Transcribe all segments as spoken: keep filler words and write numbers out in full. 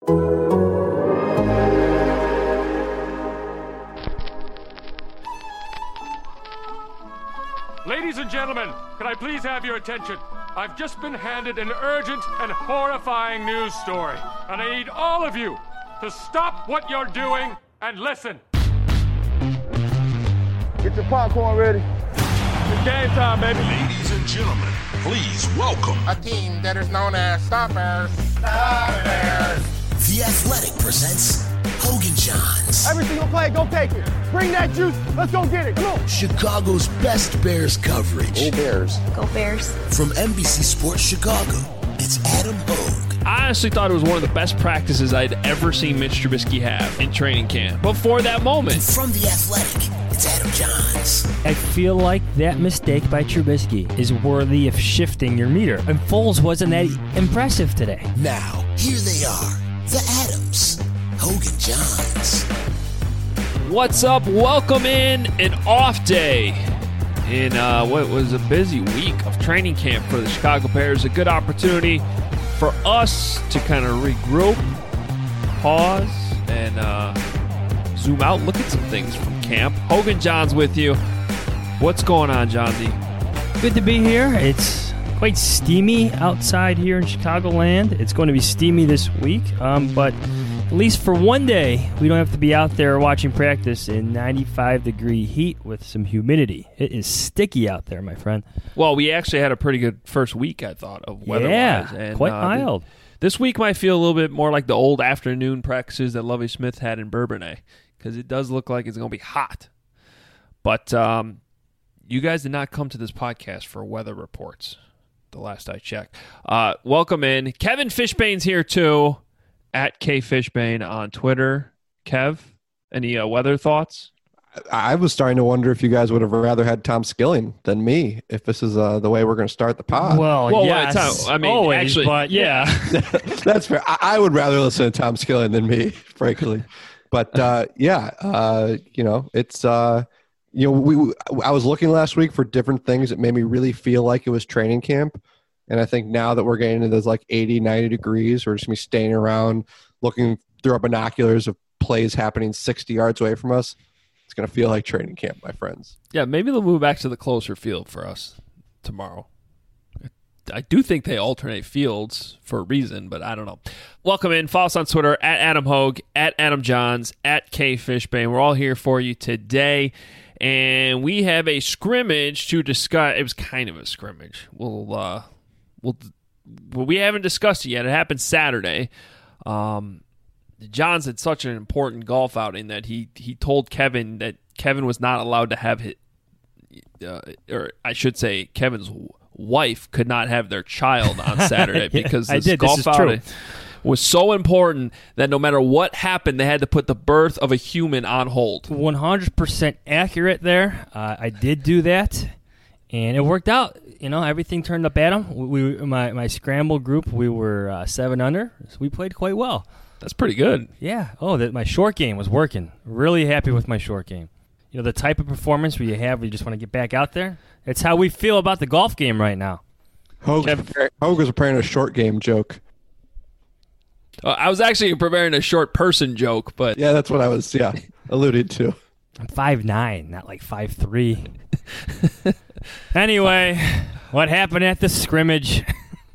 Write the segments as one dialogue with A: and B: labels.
A: Ladies and gentlemen, can I please have your attention? I've just been handed an urgent and horrifying news story, and I need all of you to stop what you're doing and listen.
B: Get your popcorn ready.
A: It's game time, baby.
C: Ladies and gentlemen, please welcome
B: A team that is known as Stoppers. Stoppers.
D: The Athletic presents Hogan Johns.
B: Every single play, go take it. Bring that juice. Let's go get it. Come on.
D: Chicago's best Bears coverage.
B: Go Bears.
E: Go Bears.
D: From N B C Sports Chicago, it's Adam Hogue.
F: I honestly thought it was one of the best practices I'd ever seen Mitch Trubisky have in training camp before that moment.
D: And from The Athletic, it's Adam Johns.
G: I feel like that mistake by Trubisky is worthy of shifting your meter. And Foles wasn't that impressive today.
D: Now, here they are, the Adams, Hogan Johns.
F: What's up? Welcome in an off day in uh, what was a busy week of training camp for the Chicago Bears. A good opportunity for us to kind of regroup, pause, and uh, zoom out, look at some things from camp. Hogan Johns with you. What's going on, Johnsy?
G: Good to be here. It's quite steamy outside here in Chicagoland. It's going to be steamy this week, um, but at least for one day, we don't have to be out there watching practice in ninety-five degree heat with some humidity. It is sticky out there, my friend.
F: Well, we actually had a pretty good first week, I thought, of weather-wise.
G: Yeah,
F: and,
G: quite
F: uh,
G: mild.
F: Th- this week might feel a little bit more like the old afternoon practices that Lovie Smith had in Bourbonnais, because it does look like it's going to be hot. But um, you guys did not come to this podcast for weather reports, the last I checked. Uh, welcome in. Kevin Fishbane's here, too, at K Fishbane on Twitter. Kev, any uh, weather thoughts?
H: I was starting to wonder if you guys would have rather had Tom Skilling than me, if this is uh, the way we're going to start the pod.
G: Well,
F: Well,
G: yes,
F: it's not- I mean,
G: always,
F: actually-
G: but yeah.
H: That's fair. I, I would rather listen to Tom Skilling than me, frankly. But uh, yeah, uh, you know, it's uh, you know, we. I was looking last week for different things that made me really feel like it was training camp, and I think now that we're getting into those like eighty, ninety degrees, we're just gonna be staying around, looking through our binoculars of plays happening sixty yards away from us. It's going to feel like training camp, my friends.
F: Yeah, maybe they'll move back to the closer field for us tomorrow. I do think they alternate fields for a reason, but I don't know. Welcome in. Follow us on Twitter, at Adam Hogue, at Adam Johns, at K Fishbane. We're all here for you today, and we have a scrimmage to discuss. It was kind of a scrimmage. We'll, uh, we'll, well, we haven't discussed it yet. It happened Saturday. Um, Johns had such an important golf outing that he, he told Kevin that Kevin was not allowed to have his, uh, or I should say Kevin's wife could not have their child on Saturday
G: Yeah,
F: because
G: I
F: this
G: did.
F: golf
G: This is
F: outing
G: true.
F: was so important that no matter what happened, they had to put the birth of a human on hold.
G: one hundred percent accurate there. Uh, I did do that, and it worked out. You know, everything turned up Adam. We, we my, my scramble group, we were uh, seven under, so we played quite well.
F: That's pretty good.
G: Yeah. Oh, that my short game was working. Really happy with my short game. You know, the type of performance where you have where you just want to get back out there. That's how we feel about the golf game right now.
H: Hogue, Hogue was preparing a short game joke.
F: Uh, I was actually preparing a short person joke, but
H: Yeah, that's what I was, yeah, alluded to.
G: I'm five nine, not like five three. Anyway, what happened at the scrimmage?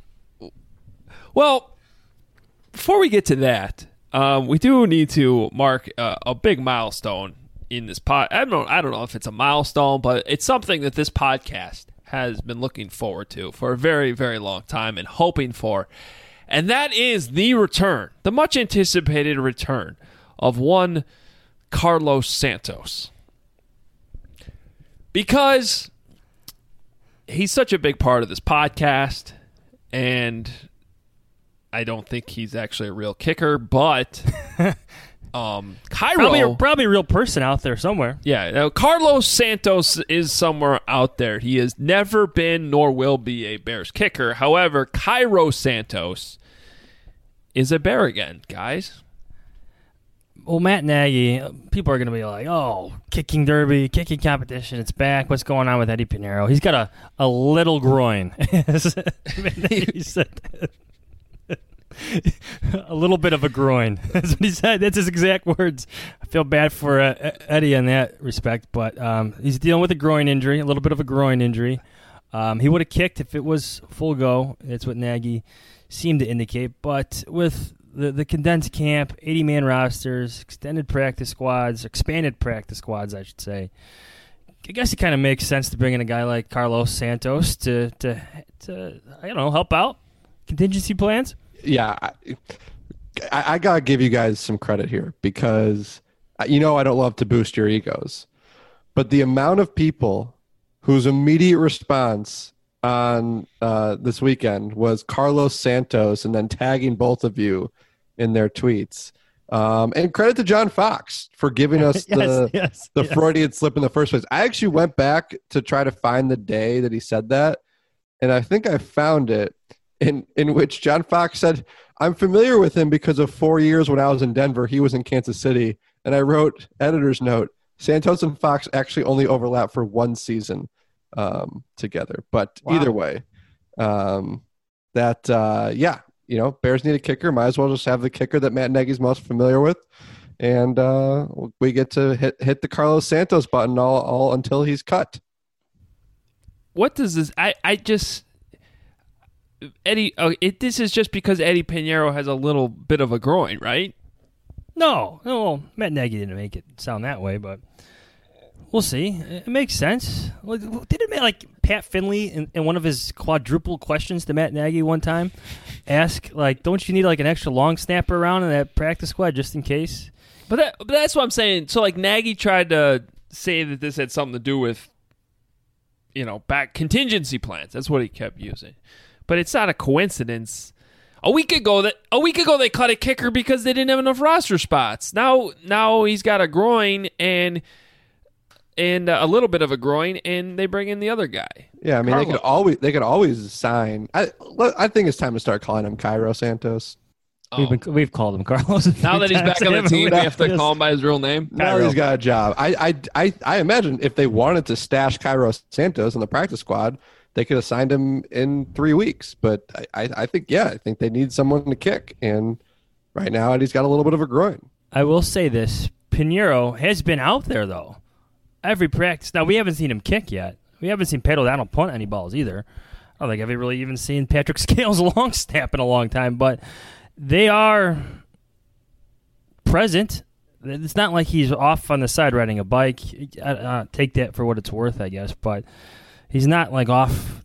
F: well, before we get to that, um, we do need to mark uh, a big milestone in this pod. I don't know, I don't know if it's a milestone, but it's something that this podcast has been looking forward to for a very, very long time and hoping for. And that is the return, the much anticipated return of one Carlos Santos. Because he's such a big part of this podcast, and I don't think he's actually a real kicker, but um, Cairo...
G: Probably a, probably a real person out there somewhere.
F: Yeah, now Carlos Santos is somewhere out there. He has never been nor will be a Bears kicker. However, Cairo Santos is a Bear again, guys.
G: Well, Matt Nagy, people are going to be like, oh, kicking derby, kicking competition, it's back. What's going on with Eddie Pinheiro? He's got a, a little groin. He said that. A little bit of a groin. That's what he said. That's his exact words. I feel bad for uh, Eddie in that respect, but um, he's dealing with a groin injury, a little bit of a groin injury. Um, he would have kicked if it was full go. That's what Nagy seemed to indicate. But with the, the condensed camp, eighty-man rosters, extended practice squads, expanded practice squads, I should say, I guess it kind of makes sense to bring in a guy like Carlos Santos to, to, to I don't know, help out contingency plans.
H: Yeah, I, I, I got to give you guys some credit here because, you know, I don't love to boost your egos, but the amount of people whose immediate response on uh, this weekend was Carlos Santos and then tagging both of you in their tweets. Um, and credit to John Fox for giving us
G: yes,
H: the,
G: yes,
H: the
G: yes.
H: Freudian slip in the first place. I actually went back to try to find the day that he said that, and I think I found it in, in which John Fox said, I'm familiar with him because of four years when I was in Denver. He was in Kansas City. And I wrote, editor's note, Santos and Fox actually only overlap for one season um, together. But
G: Wow.
H: either way, um, that, uh, yeah, you know, Bears need a kicker. Might as well just have the kicker that Matt Nagy's most familiar with. And uh, we get to hit hit the Carlos Santos button all, all until he's cut.
F: What does this? I, I just Eddie. Oh, it, this is just because Eddie Pinheiro has a little bit of a groin, right?
G: No, no, Matt Nagy didn't make it sound that way, but we'll see. It makes sense. Didn't it make, like Pat Finley in, in one of his quadruple questions to Matt Nagy one time ask, like, don't you need like an extra long snapper around in that practice squad just in case?
F: But, that, but that's what I'm saying. So, like, Nagy tried to say that this had something to do with, you know, back contingency plans. That's what he kept using. But it's not a coincidence. A week ago, that a week ago they cut a kicker because they didn't have enough roster spots. Now, now he's got a groin and and uh, a little bit of a groin, and they bring in the other guy.
H: Yeah, I mean,
F: Carlos.
H: they could always they could always sign. I I think it's time to start calling him Cairo Santos.
F: Oh.
G: We've been, we've called him Carlos. a
F: Now
G: few
F: that he's
G: times,
F: back on the
G: haven't
F: team,
G: we?
F: we have to
G: Yes.
F: call him by his real name.
H: Now
G: Cairo.
H: he's got a job. I, I I I imagine if they wanted to stash Cairo Santos in the practice squad, they could have signed him in three weeks. But I, I, I think, yeah, I think they need someone to kick. And right now, Eddie's got a little bit of a groin.
G: I will say this. Pinheiro has been out there, though. Every practice. Now, we haven't seen him kick yet. We haven't seen Pedro Dowdle punt any balls either. I don't think I've really even seen Patrick Scales long snap in a long time. But they are present. It's not like he's off on the side riding a bike. I, I take that for what it's worth, I guess. But he's not like off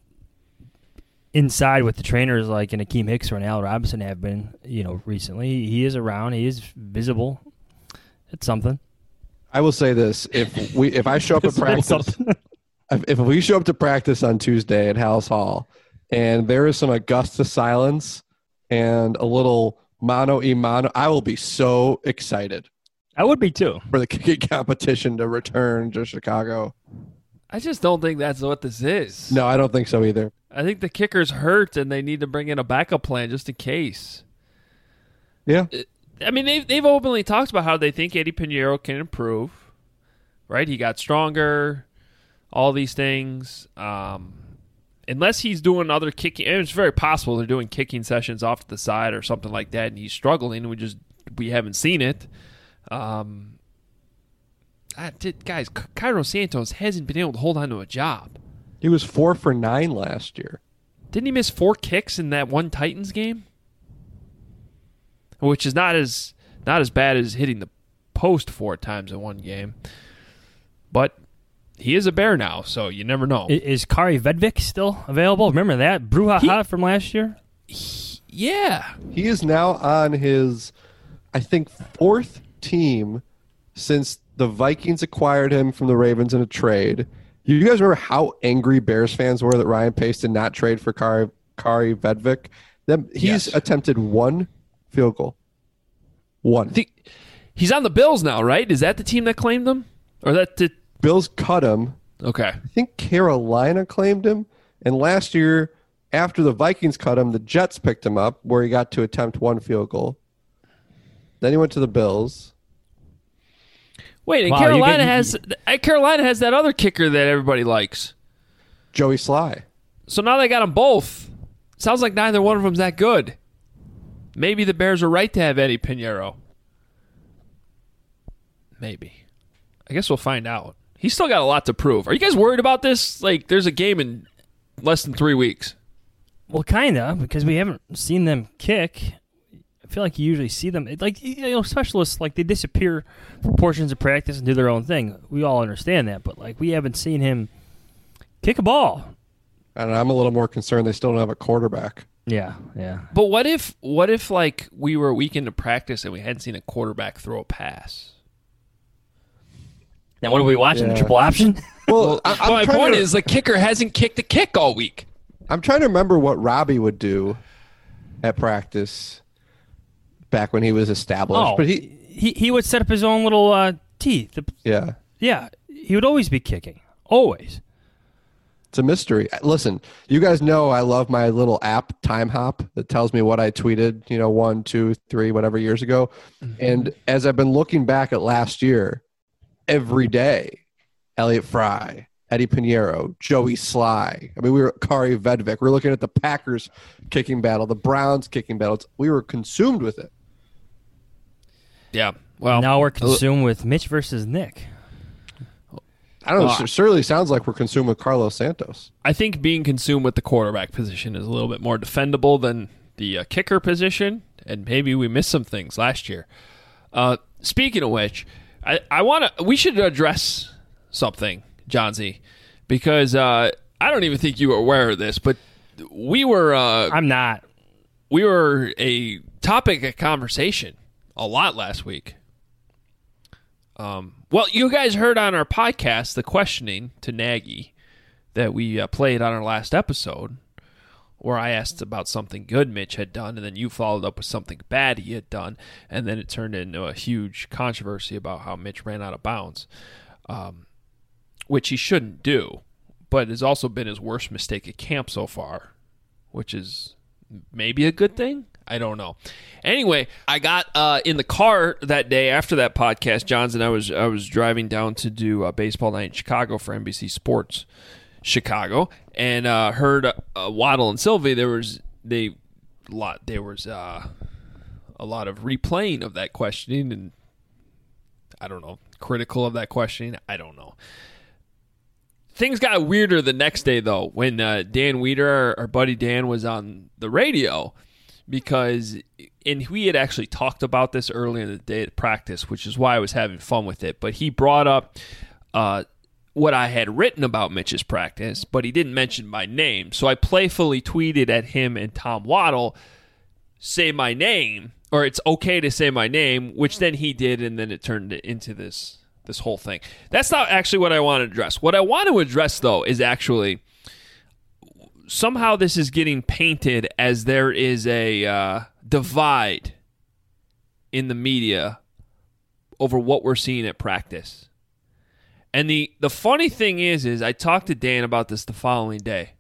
G: inside with the trainers like an Akeem Hicks or an Al Robinson have been, you know, recently. He is around. He is visible. It's something.
H: I will say this: if we if I show up at practice, if, if we show up to practice on Tuesday at Hallis Hall, and there is some Augusta silence and a little mano y mano, I will be so excited
G: I would be too.
H: for the kicking competition to return to Chicago.
F: I just don't think that's what this is.
H: No, I don't think so either.
F: I think the kicker's hurt, and they need to bring in a backup plan just in case.
H: Yeah.
F: I mean, they've, they've openly talked about how they think Eddie Pinheiro can improve, right? He got stronger, all these things. Um, unless he's doing other kicking, and it's very possible they're doing kicking sessions off to the side or something like that, and he's struggling. We just we haven't seen it. Um, I did, guys, Cairo Santos hasn't been able to hold on to a job.
H: He was four for nine last year.
F: Didn't he miss four kicks in that one Titans game? Which is not as not as bad as hitting the post four times in one game. But he is a Bear now, so you never know.
G: I- Is Kari Vedvik still available? Remember that? Brouhaha
F: He-
G: from last year?
F: Yeah.
H: He is now on his, I think, fourth team since the Vikings acquired him from the Ravens in a trade. You guys remember how angry Bears fans were that Ryan Pace did not trade for Kari, Kari Vedvik? Them, he's
F: Yes.
H: attempted one field goal. One.
F: I think he's on the Bills now, right? Is that the team that claimed him? Or that the
H: Bills cut him.
F: Okay.
H: I think Carolina claimed him. And last year, after the Vikings cut him, the Jets picked him up where he got to attempt one field goal. Then he went to the Bills.
F: Wait, and
G: Wow, you
F: Carolina
G: get-
F: has uh, Carolina has that other kicker that everybody likes.
H: Joey Sly.
F: So now they got them both. Sounds like neither one of them's that good. maybe the Bears are right to have Eddie Pinheiro. Maybe. I guess we'll find out. He's still got a lot to prove. Are you guys worried about this? Like, there's a game in less than three weeks.
G: Well, kind of, because we haven't seen them kick. I feel like you usually see them. Like, you know, specialists, like, they disappear for portions of practice and do their own thing. We all understand that, but, like, we haven't seen him kick a ball.
H: And I'm a little more concerned they still don't have a quarterback.
G: Yeah, yeah.
F: But what if, what if like, we were a week into practice and we hadn't seen a quarterback throw a pass?
G: Now, what are we watching?
H: Yeah.
G: The triple option?
H: Well, I, I'm
E: my
H: trying
E: point
H: to,
E: is, the kicker hasn't kicked a kick all week.
H: I'm trying to remember what Robbie would do at practice back when he was established.
G: Oh,
H: but he,
G: he he would set up his own little uh, tee. The,
H: yeah,
G: yeah, he would always be kicking. Always.
H: it's a mystery. Listen, you guys know I love my little app, Time Hop, that tells me what I tweeted, you know, one, two, three, whatever years ago. Mm-hmm. And as I've been looking back at last year, every day, Elliott Fry, Eddie Pinheiro, Joey Sly. I mean, we were Kari Vedvik. We were looking at the Packers kicking battle, the Browns kicking battles. We were consumed with it.
F: Yeah. Well,
G: now we're consumed with Mitch versus Nick.
H: I don't know.
F: Well,
H: It certainly sounds like we're consumed with Carlos Santos.
F: I think being consumed with the quarterback position is a little bit more defendable than the uh, kicker position, and maybe we missed some things last year. Uh, speaking of which, I, I want to. We should address something, John Z, because uh, I don't even think you were aware of this, but we were. Uh,
G: I'm not.
F: We were a topic of conversation a lot last week. Um, well, you guys heard on our podcast the questioning to Nagy that we uh, played on our last episode, where I asked about something good Mitch had done, and then you followed up with something bad he had done, and then it turned into a huge controversy about how Mitch ran out of bounds, um, which he shouldn't do, but has also been his worst mistake at camp so far, which is maybe a good thing. I don't know. Anyway, I got uh, in the car that day after that podcast, Johns, and I was I was driving down to do uh, baseball night in Chicago for N B C Sports Chicago, and uh, heard uh, Waddle and Sylvie. There was they lot there was uh, a lot of replaying of that questioning, and I don't know, critical of that questioning. I don't know. Things got weirder the next day though when uh, Dan Weeder, our, our buddy Dan, was on the radio. Because, and we had actually talked about this earlier in the day at practice, which is why I was having fun with it. But he brought up uh, what I had written about Mitch's practice, but he didn't mention my name. So I playfully tweeted at him and Tom Waddle, say my name, or it's okay to say my name, which then he did, and then it turned into this this whole thing. That's not actually what I want to address. What I want to address, though, is actually... somehow this is getting painted as there is a uh, divide in the media over what we're seeing at practice. And the, the funny thing is, is I talked to Dan about this the following day.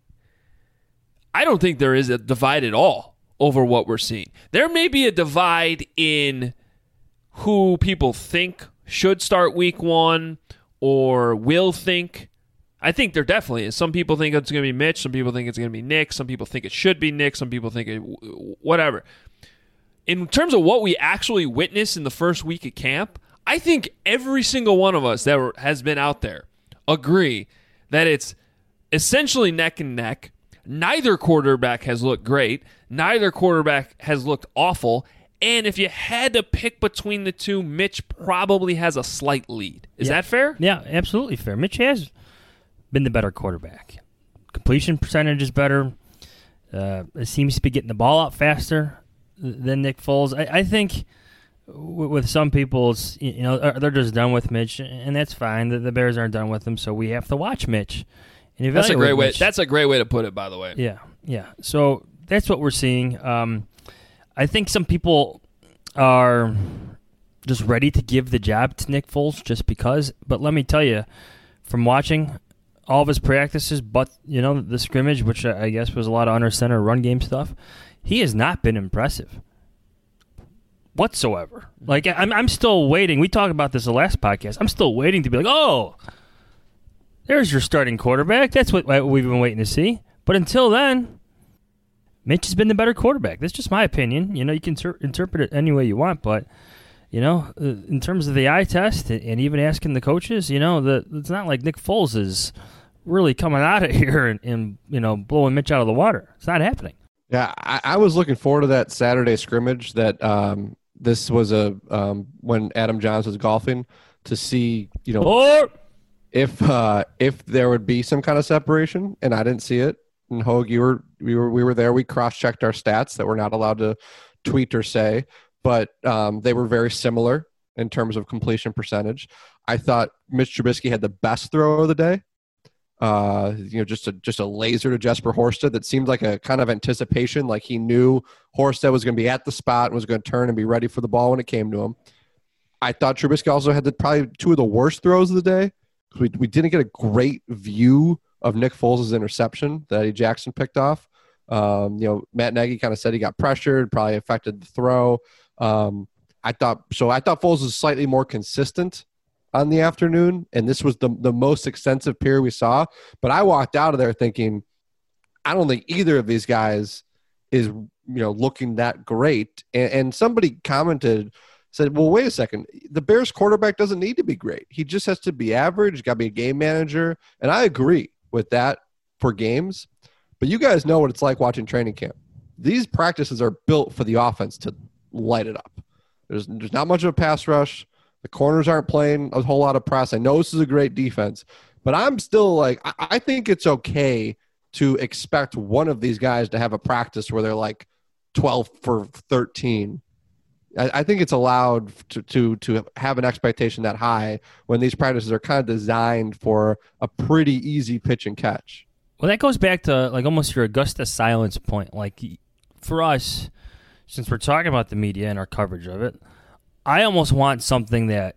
F: I don't think there is a divide at all over what we're seeing. There may be a divide in who people think should start week one or will think. I think there definitely is. Some people think it's going to be Mitch. Some people think it's going to be Nick. Some people think it should be Nick. Some people think it, whatever. In terms of what we actually witnessed in the first week of camp, I think every single one of us that were, has been out there agree that it's essentially neck and neck. Neither quarterback has looked great. Neither quarterback has looked awful. And if you had to pick between the two, Mitch probably has a slight lead. Is
G: yeah.
F: that fair?
G: Yeah, absolutely fair. Mitch has been the better quarterback. Completion percentage is better. Uh, it seems to be getting the ball out faster than Nick Foles. I, I think w- with some people, it's, you know, they're just done with Mitch, and that's fine. The, the Bears aren't done with him, so we have to watch Mitch. And
F: that's a great way.
G: Mitch.
F: That's a great way to put it, by the way.
G: Yeah, yeah. So that's what we're seeing. Um, I think some people are just ready to give the job to Nick Foles just because. But let me tell you, from watching all of his practices, but, you know, the scrimmage, which I guess was a lot of under center run game stuff, he has not been impressive whatsoever. Like, I'm I'm still waiting. We talked about this the last podcast. I'm still waiting to be like, oh, there's your starting quarterback. That's what we've been waiting to see. But until then, Mitch has been the better quarterback. That's just my opinion. You know, you can ter- interpret it any way you want, but, you know, uh, in terms of the eye test and, and even asking the coaches, you know, the, it's not like Nick Foles is really coming out of here and, and, you know, blowing Mitch out of the water. It's not happening.
H: Yeah, I, I was looking forward to that Saturday scrimmage that um, this was a um, when Adam Johns was golfing to see, you know,
G: Or-
H: if uh, if there would be some kind of separation, and I didn't see it. And Hogue, you were we were we were there. We cross-checked our stats that we're not allowed to tweet or say, but um, they were very similar in terms of completion percentage. I thought Mitch Trubisky had the best throw of the day. Uh, you know, just a just a laser to Jesper Horsted that seemed like a kind of anticipation, like he knew Horsted was going to be at the spot and was going to turn and be ready for the ball when it came to him. I thought Trubisky also had the, probably two of the worst throws of the day. We we didn't get a great view of Nick Foles' interception that Eddie Jackson picked off. Um, you know, Matt Nagy kind of said he got pressured, probably affected the throw. Um, I thought so. I thought Foles was slightly more consistent on the afternoon, and this was the the most extensive period we saw. But I walked out of there thinking, I don't think either of these guys is you know looking that great. And, and somebody commented. Said, well, wait a second. The Bears quarterback doesn't need to be great. He just has to be average. Got to be a game manager. And I agree with that for games. But you guys know what it's like watching training camp. These practices are built for the offense to light it up. There's, there's not much of a pass rush. The corners aren't playing a whole lot of press. I know this is a great defense. But I'm still like, I, I think it's okay to expect one of these guys to have a practice where they're like twelve for thirteen. I think it's allowed to, to to have an expectation that high when these practices are kind of designed for a pretty easy pitch and catch.
G: Well, that goes back to like almost your Augusta silence point. Like for us, since we're talking about the media and our coverage of it, I almost want something that,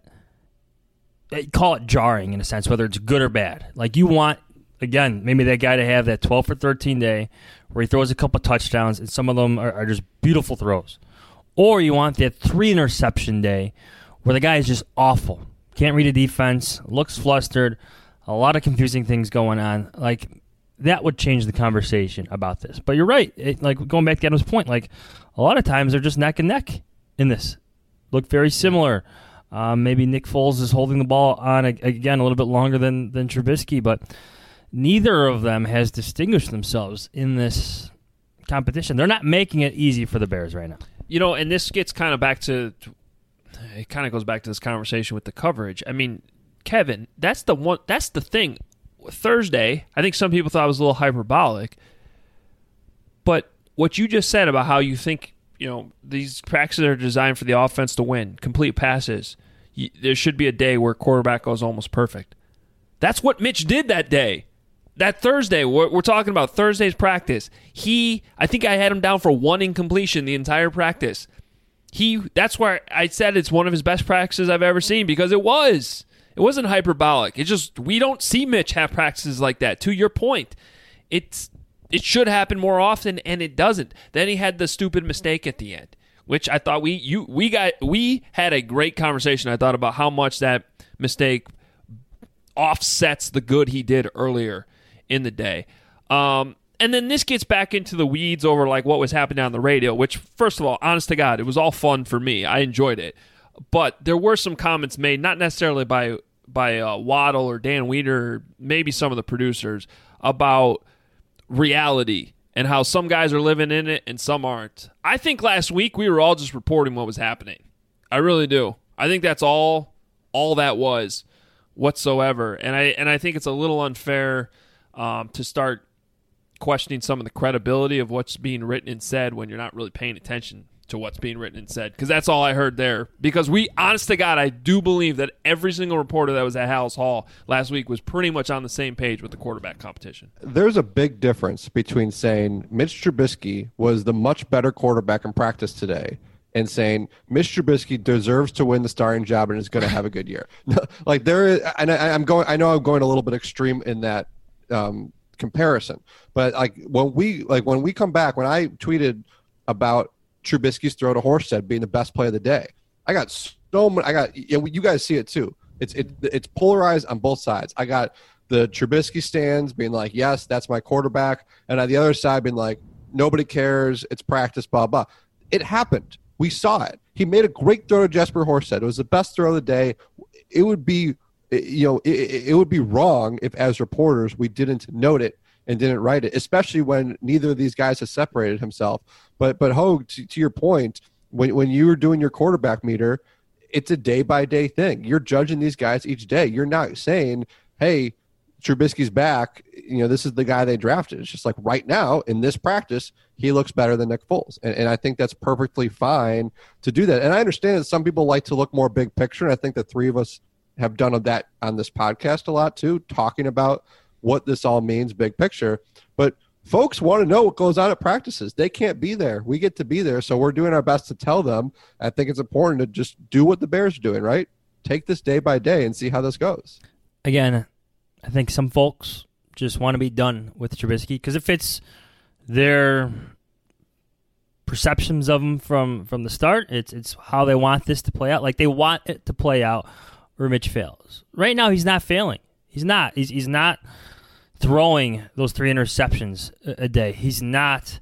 G: call it jarring in a sense, whether it's good or bad. Like you want, again, maybe that guy to have that twelve for thirteen day where he throws a couple touchdowns and some of them are, are just beautiful throws. Or you want that three interception day where the guy is just awful. Can't read a defense, looks flustered, a lot of confusing things going on. Like, that would change the conversation about this. But you're right. It, like, going back to Adam's point, like, a lot of times they're just neck and neck in this. Look very similar. Um, maybe Nick Foles is holding the ball on, again, a little bit longer than, than Trubisky, but neither of them has distinguished themselves in this competition. They're not making it easy for the Bears right now.
F: You know, and this gets kind of back to, it kind of goes back to this conversation with the coverage. I mean, Kevin, that's the one, that's the thing. Thursday, I think some people thought it was a little hyperbolic, but what you just said about how you think, you know, these practices are designed for the offense to win, complete passes. You, there should be a day where quarterback goes almost perfect. That's what Mitch did that day. That Thursday, we're, we're talking about Thursday's practice. He, I think I had him down for one incompletion the entire practice. He, that's where I said it's one of his best practices I've ever seen because it was. It wasn't hyperbolic. It just, we don't see Mitch have practices like that. To your point, it's it should happen more often, and it doesn't. Then he had the stupid mistake at the end, which I thought we you we got we had a great conversation. I thought about how much that mistake offsets the good he did earlier in the day. Um, and then this gets back into the weeds over like what was happening on the radio, which, first of all, honest to God, it was all fun for me. I enjoyed it. But there were some comments made, not necessarily by by uh, Waddle or Dan Weeder, or maybe some of the producers, about reality and how some guys are living in it and some aren't. I think last week we were all just reporting what was happening. I really do. I think that's all all that was whatsoever. And I and I think it's a little unfair Um, to start questioning some of the credibility of what's being written and said when you're not really paying attention to what's being written and said, because that's all I heard there. Because we, honest to God, I do believe that every single reporter that was at Hallis Hall last week was pretty much on the same page with the quarterback competition.
H: There's a big difference between saying Mitch Trubisky was the much better quarterback in practice today and saying Mitch Trubisky deserves to win the starting job and is going to have a good year. Like there is, and I, I'm going, I know I'm going a little bit extreme in that um, comparison, but like when we, like when we come back, when I tweeted about Trubisky's throw to Horsted being the best play of the day, I got so many, I got, you know, you guys see it too. It's, it, it's polarized on both sides. I got the Trubisky stands being like, yes, that's my quarterback. And on the other side being like, nobody cares. It's practice, blah, blah. It happened. We saw it. He made a great throw to Jesper Horsted. It was the best throw of the day. It would be, you know, it, it would be wrong if, as reporters, we didn't note it and didn't write it, especially when neither of these guys has separated himself. But, but Hogue, to, to your point, when when you were doing your quarterback meter, it's a day-by-day thing. You're judging these guys each day. You're not saying, hey, Trubisky's back. You know, this is the guy they drafted. It's just like right now in this practice, he looks better than Nick Foles. And, and I think that's perfectly fine to do that. And I understand that some people like to look more big picture. And I think the three of us have done that on this podcast a lot too, talking about what this all means, big picture. But folks want to know what goes on at practices. They can't be there. We get to be there. So we're doing our best to tell them. I think it's important to just do what the Bears are doing, right? Take this day by day and see how this goes.
G: Again, I think some folks just want to be done with Trubisky because it fits their perceptions of him from, from the start. It's it's how they want this to play out. Like they want it to play out where Mitch fails. Right now, he's not failing. He's not. He's he's not throwing those three interceptions a, a day. He's not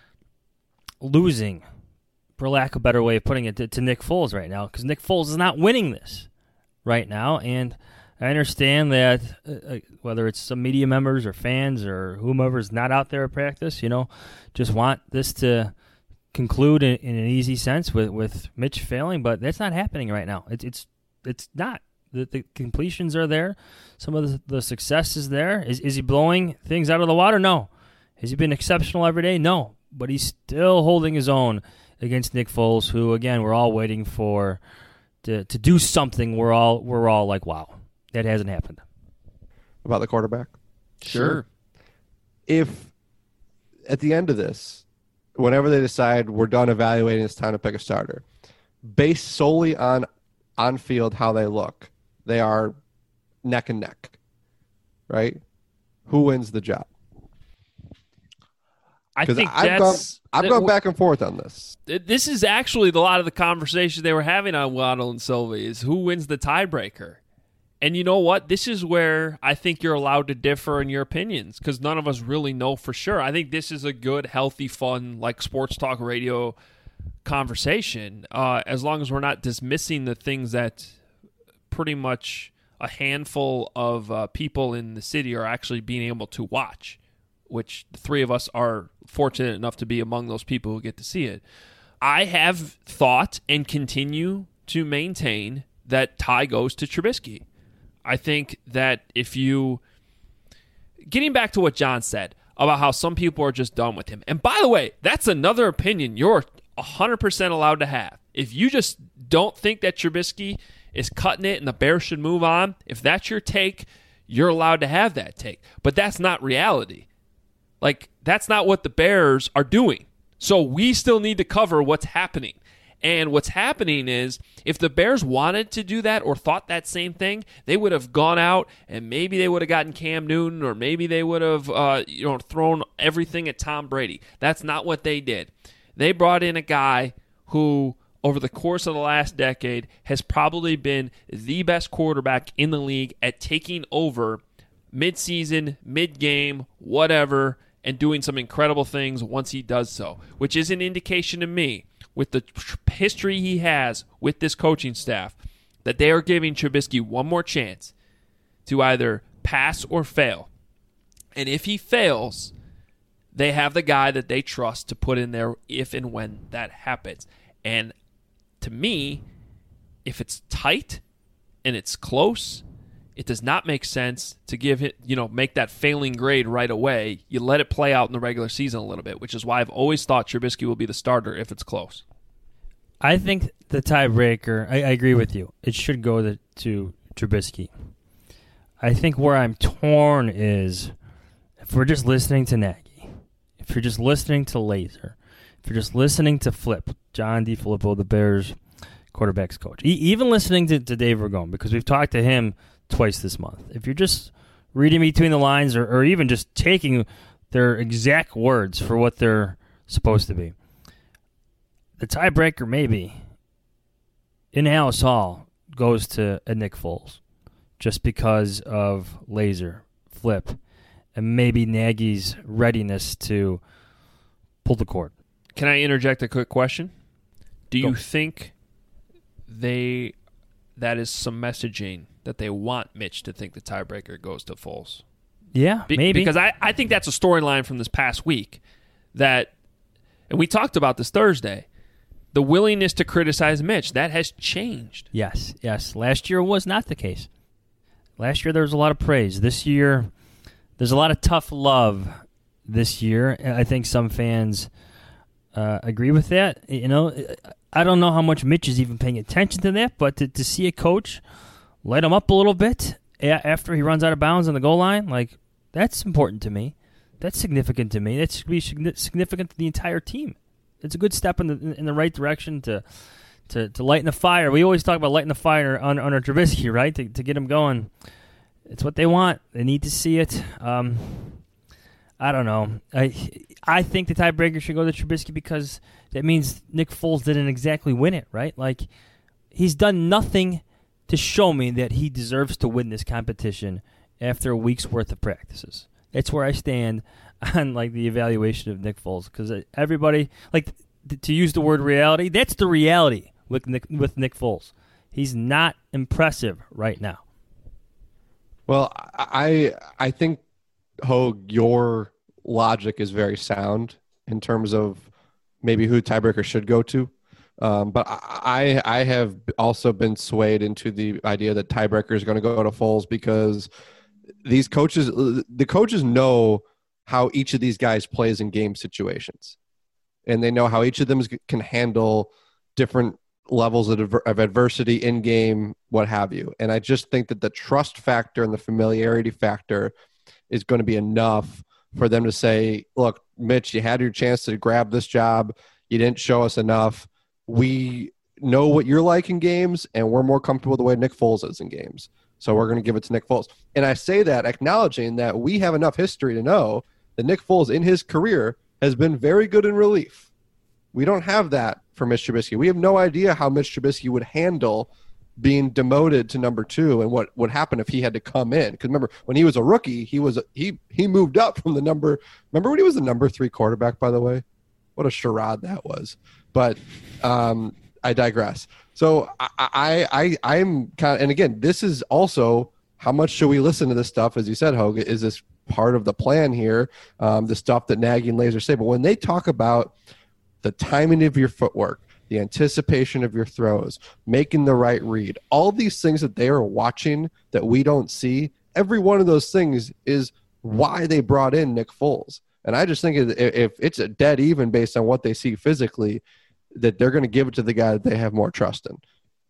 G: losing, for lack of a better way of putting it, to, to Nick Foles right now because Nick Foles is not winning this right now. And I understand that uh, whether it's some media members or fans or whomever's not out there at practice, you know, just want this to conclude in, in an easy sense with, with Mitch failing, but that's not happening right now. It's it's it's not. The, the completions are there. Some of the, the success is there. Is is he blowing things out of the water? No. Has he been exceptional every day? No. But he's still holding his own against Nick Foles, who again we're all waiting for to to do something. We're all we're all like, wow. That hasn't happened.
H: About the quarterback?
E: Sure.
H: If at the end of this, whenever they decide we're done evaluating, it's time to pick a starter, based solely on on-field how they look, they are neck and neck, right? Who wins the job?
F: I think
H: I've
F: that's...
H: Gone, I've gone back and forth on this.
F: This is actually a lot of the conversation they were having on Waddle and Sylvie is who wins the tiebreaker. And you know what? This is where I think you're allowed to differ in your opinions because none of us really know for sure. I think this is a good, healthy, fun, like sports talk radio conversation, uh, as long as we're not dismissing the things that pretty much a handful of uh, people in the city are actually being able to watch, which the three of us are fortunate enough to be among those people who get to see it. I have thought and continue to maintain that tie goes to Trubisky. I think that if you, getting back to what John said about how some people are just done with him. And by the way, that's another opinion you're one hundred percent allowed to have. If you just don't think that Trubisky is cutting it and the Bears should move on, if that's your take, you're allowed to have that take. But that's not reality. Like, that's not what the Bears are doing. So we still need to cover what's happening. And what's happening is if the Bears wanted to do that or thought that same thing, they would have gone out and maybe they would have gotten Cam Newton or maybe they would have uh, you know, thrown everything at Tom Brady. That's not what they did. They brought in a guy who, over the course of the last decade, has probably been the best quarterback in the league at taking over mid-season, mid-game, whatever, and doing some incredible things once he does so, which is an indication to me, with the history he has with this coaching staff, that they are giving Trubisky one more chance to either pass or fail. And if he fails, they have the guy that they trust to put in there if and when that happens. And to me, if it's tight and it's close, it does not make sense to give it, you know, make that failing grade right away. You let it play out in the regular season a little bit, which is why I've always thought Trubisky will be the starter if it's close.
G: I think the tiebreaker, I, I agree with you. It should go to, to Trubisky. I think where I'm torn is if we're just listening to Nagy, if you're just listening to Laser, if you're just listening to Flip, John DeFilippo, the Bears quarterbacks coach, e- even listening to, to Dave Ragone, because we've talked to him twice this month. If you're just reading between the lines or, or even just taking their exact words for what they're supposed to be, the tiebreaker maybe in Halas Hall goes to a Nick Foles just because of Laser, Flip, and maybe Nagy's readiness to pull the cord.
F: Can I interject a quick question? Do
G: Go.
F: you think they that is some messaging that they want Mitch to think the tiebreaker goes to Foles?
G: Yeah,
F: Be-
G: maybe.
F: Because I, I think that's a storyline from this past week that, and we talked about this Thursday, the willingness to criticize Mitch, that has changed.
G: Yes, yes. Last year was not the case. Last year there was a lot of praise. This year there's a lot of tough love this year. I think some fans uh, agree with that. You know, I don't know how much Mitch is even paying attention to that, but to, to see a coach light him up a little bit after he runs out of bounds on the goal line, like, that's important to me. That's significant to me. That should be significant to the entire team. It's a good step in the in the right direction to to, to lighten the fire. We always talk about lighting the fire on under Trubisky, right? To to get him going. It's what they want. They need to see it. Um, I don't know. I I think the tiebreaker should go to Trubisky because that means Nick Foles didn't exactly win it, right? Like, he's done nothing to show me that he deserves to win this competition after a week's worth of practices. That's where I stand on, like, the evaluation of Nick Foles, because everybody, like, th- to use the word reality, that's the reality with Nick, with Nick Foles. He's not impressive right now.
H: Well, I I think, Hogue, your logic is very sound in terms of maybe who tiebreaker should go to. Um, but I I have also been swayed into the idea that tiebreaker is going to go to Foles because these coaches, the coaches know how each of these guys plays in game situations, and they know how each of them can handle different levels of, of adversity in game, what have you. And I just think that the trust factor and the familiarity factor is going to be enough for them to say, look, Mitch, you had your chance to grab this job. You didn't show us enough. We know what you're like in games, and we're more comfortable the way Nick Foles is in games. So we're going to give it to Nick Foles. And I say that acknowledging that we have enough history to know that Nick Foles in his career has been very good in relief. We don't have that for Mitch Trubisky. We have no idea how Mitch Trubisky would handle being demoted to number two and what would happen if he had to come in. Because remember, when he was a rookie, he was he he moved up from the number. Remember when he was the number three quarterback, by the way? What a charade that was. But um, I digress. So I, I, I, I'm kind of, and again, this is also how much should we listen to this stuff? As you said, Hogue, is this part of the plan here? Um, the stuff that Nagy and Laser say. But when they talk about the timing of your footwork, the anticipation of your throws, making the right read, all these things that they are watching that we don't see, every one of those things is why they brought in Nick Foles. And I just think if it's a dead even based on what they see physically, that they're going to give it to the guy that they have more trust in.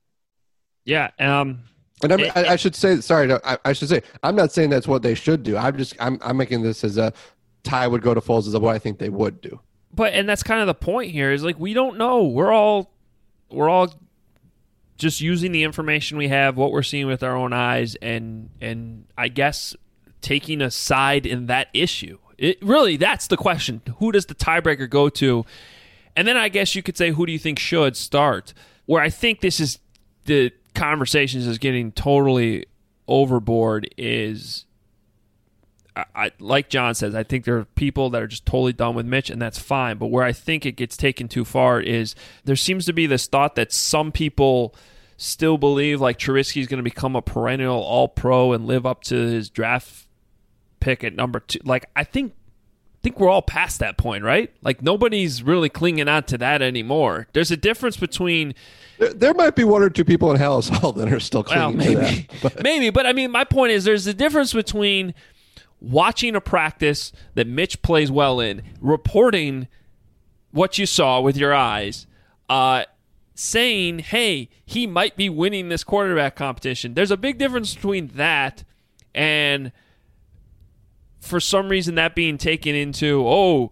F: Yeah. Um,
H: and I, mean, I, I should say, sorry, no, I, I should say, I'm not saying that's what they should do. I'm just, I'm, I'm making this as a tie would go to Foles as what I think they would do.
F: But, and that's kind of the point here is like, we don't know. We're all, we're all just using the information we have, what we're seeing with our own eyes, and, and I guess taking a side in that issue. It really, that's the question. Who does the tiebreaker go to? And then I guess you could say, who do you think should start? Where I think this is, the conversations is getting totally overboard is, I, I, like John says, I think there are people that are just totally done with Mitch, and that's fine. But where I think it gets taken too far is there seems to be this thought that some people still believe like Trubisky is going to become a perennial all-pro and live up to his draft pick at number two. Like, I think I think we're all past that point, right? Like, nobody's really clinging on to that anymore. There's a difference between...
H: There, there might be one or two people in Hallis Hall that are still clinging
F: well, maybe,
H: to that. But.
F: Maybe, but I mean, my point is there's a difference between watching a practice that Mitch plays well in, reporting what you saw with your eyes, uh, saying, hey, he might be winning this quarterback competition. There's a big difference between that and... for some reason that being taken into, oh,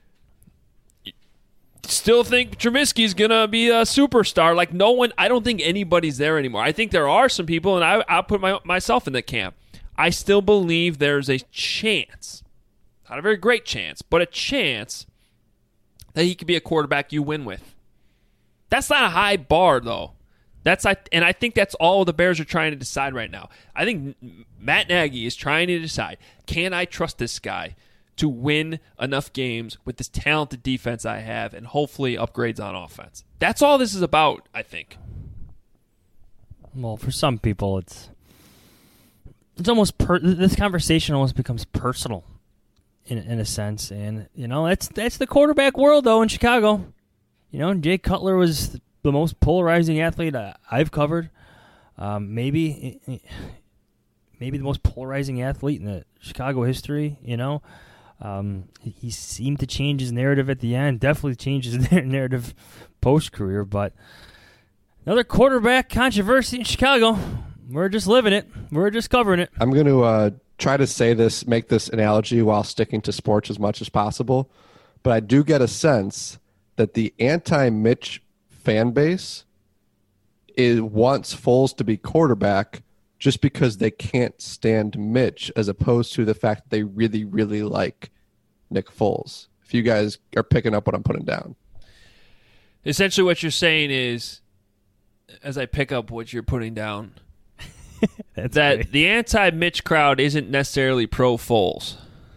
F: still think Trubisky's going to be a superstar. Like, no one, I don't think anybody's there anymore. I think there are some people, and I, I'll put my, myself in the camp. I still believe there's a chance, not a very great chance, but a chance that he could be a quarterback you win with. That's not a high bar, though. That's and I think that's all the Bears are trying to decide right now. I think Matt Nagy is trying to decide, can I trust this guy to win enough games with this talented defense I have and hopefully upgrades on offense. That's all this is about, I think.
G: Well, for some people, it's it's almost per- this conversation almost becomes personal in in a sense, and you know that's that's the quarterback world though in Chicago. You know, Jay Cutler was the most polarizing athlete I've covered. Um, maybe maybe the most polarizing athlete in the Chicago history. You know, um, he seemed to change his narrative at the end. Definitely changed his narrative post career, but. Another quarterback controversy in Chicago. We're just living it. We're just covering it.
H: I'm going to uh, try to say this, make this analogy while sticking to sports as much as possible. But I do get a sense that the anti-Mitch fan base is wants Foles to be quarterback just because they can't stand Mitch, as opposed to the fact that they really, really like Nick Foles. If you guys are picking up what I'm putting down.
F: Essentially what you're saying is, as I pick up what you're putting down, that great. The anti-Mitch crowd isn't necessarily pro-Foles.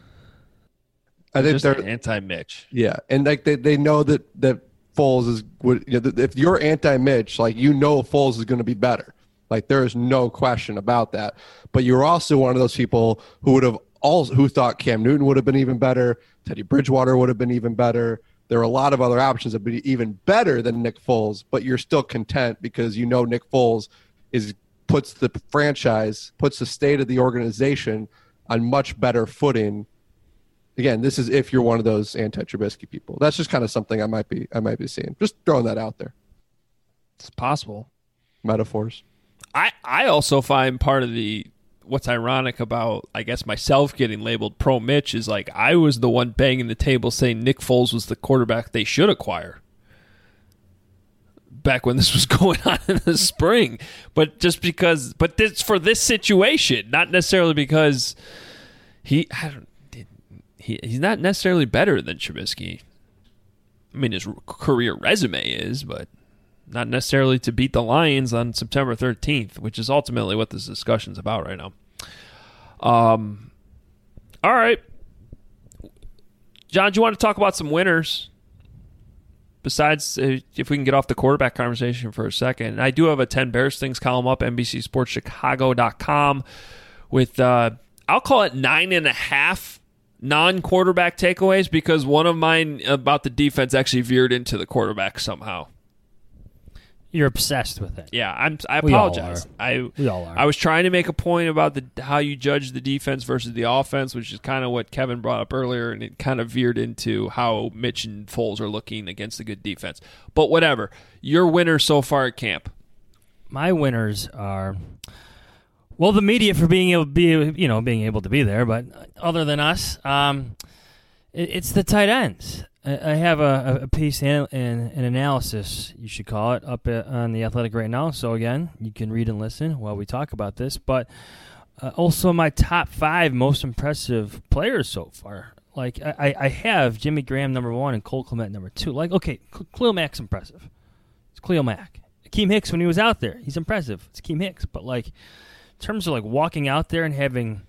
H: I think
F: just
H: they're
F: anti-Mitch.
H: Yeah, and like they, they know that, that Foles is would you know, if you're anti-Mitch, like you know Foles is going to be better. Like there is no question about that. But you're also one of those people who would have also who thought Cam Newton would have been even better, Teddy Bridgewater would have been even better. There are a lot of other options that would be even better than Nick Foles, but you're still content because you know Nick Foles is puts the franchise, puts the state of the organization on much better footing. Again, this is if you're one of those anti-Trubisky people. That's just kind of something I might be I might be seeing. Just throwing that out there.
F: It's possible.
H: Metaphors.
F: I, I also find part of the what's ironic about, I guess, myself getting labeled pro-Mitch is like I was the one banging the table saying Nick Foles was the quarterback they should acquire back when this was going on in the spring. But just because, but this for this situation, not necessarily because he, I don't, he he's not necessarily better than Trubisky. I mean, his career resume is, but not necessarily to beat the Lions on September thirteenth, which is ultimately what this discussion's about right now. Um, all right. John, do you want to talk about some winners? Besides, uh, if we can get off the quarterback conversation for a second. I do have a ten Bears Things column up, N B C Sports Chicago dot com, with, uh, I'll call it nine and a half non-quarterback takeaways, because one of mine about the defense actually veered into the quarterback somehow.
G: You're obsessed with it.
F: Yeah, I'm. I
G: We all
F: apologize.
G: are.
F: I
G: We all are.
F: I was trying to make a point about the how you judge the defense versus the offense, which is kind of what Kevin brought up earlier, and it kind of veered into how Mitch and Foles are looking against a good defense. But whatever. Your winners so far at camp.
G: My winners are, well, the media for being able to be, you know, being able to be there, but other than us, um, it, it's the tight ends. I have a, a piece and an analysis, you should call it, up on The Athletic right now. So, again, you can read and listen while we talk about this. But uh, also my top five most impressive players so far. Like, I, I have Jimmy Graham number one and Cole Kmet number two. Like, okay, Khalil Mack's impressive. It's Khalil Mack. Akeem Hicks, when he was out there, he's impressive. It's Akeem Hicks. But, like, in terms of, like, walking out there and having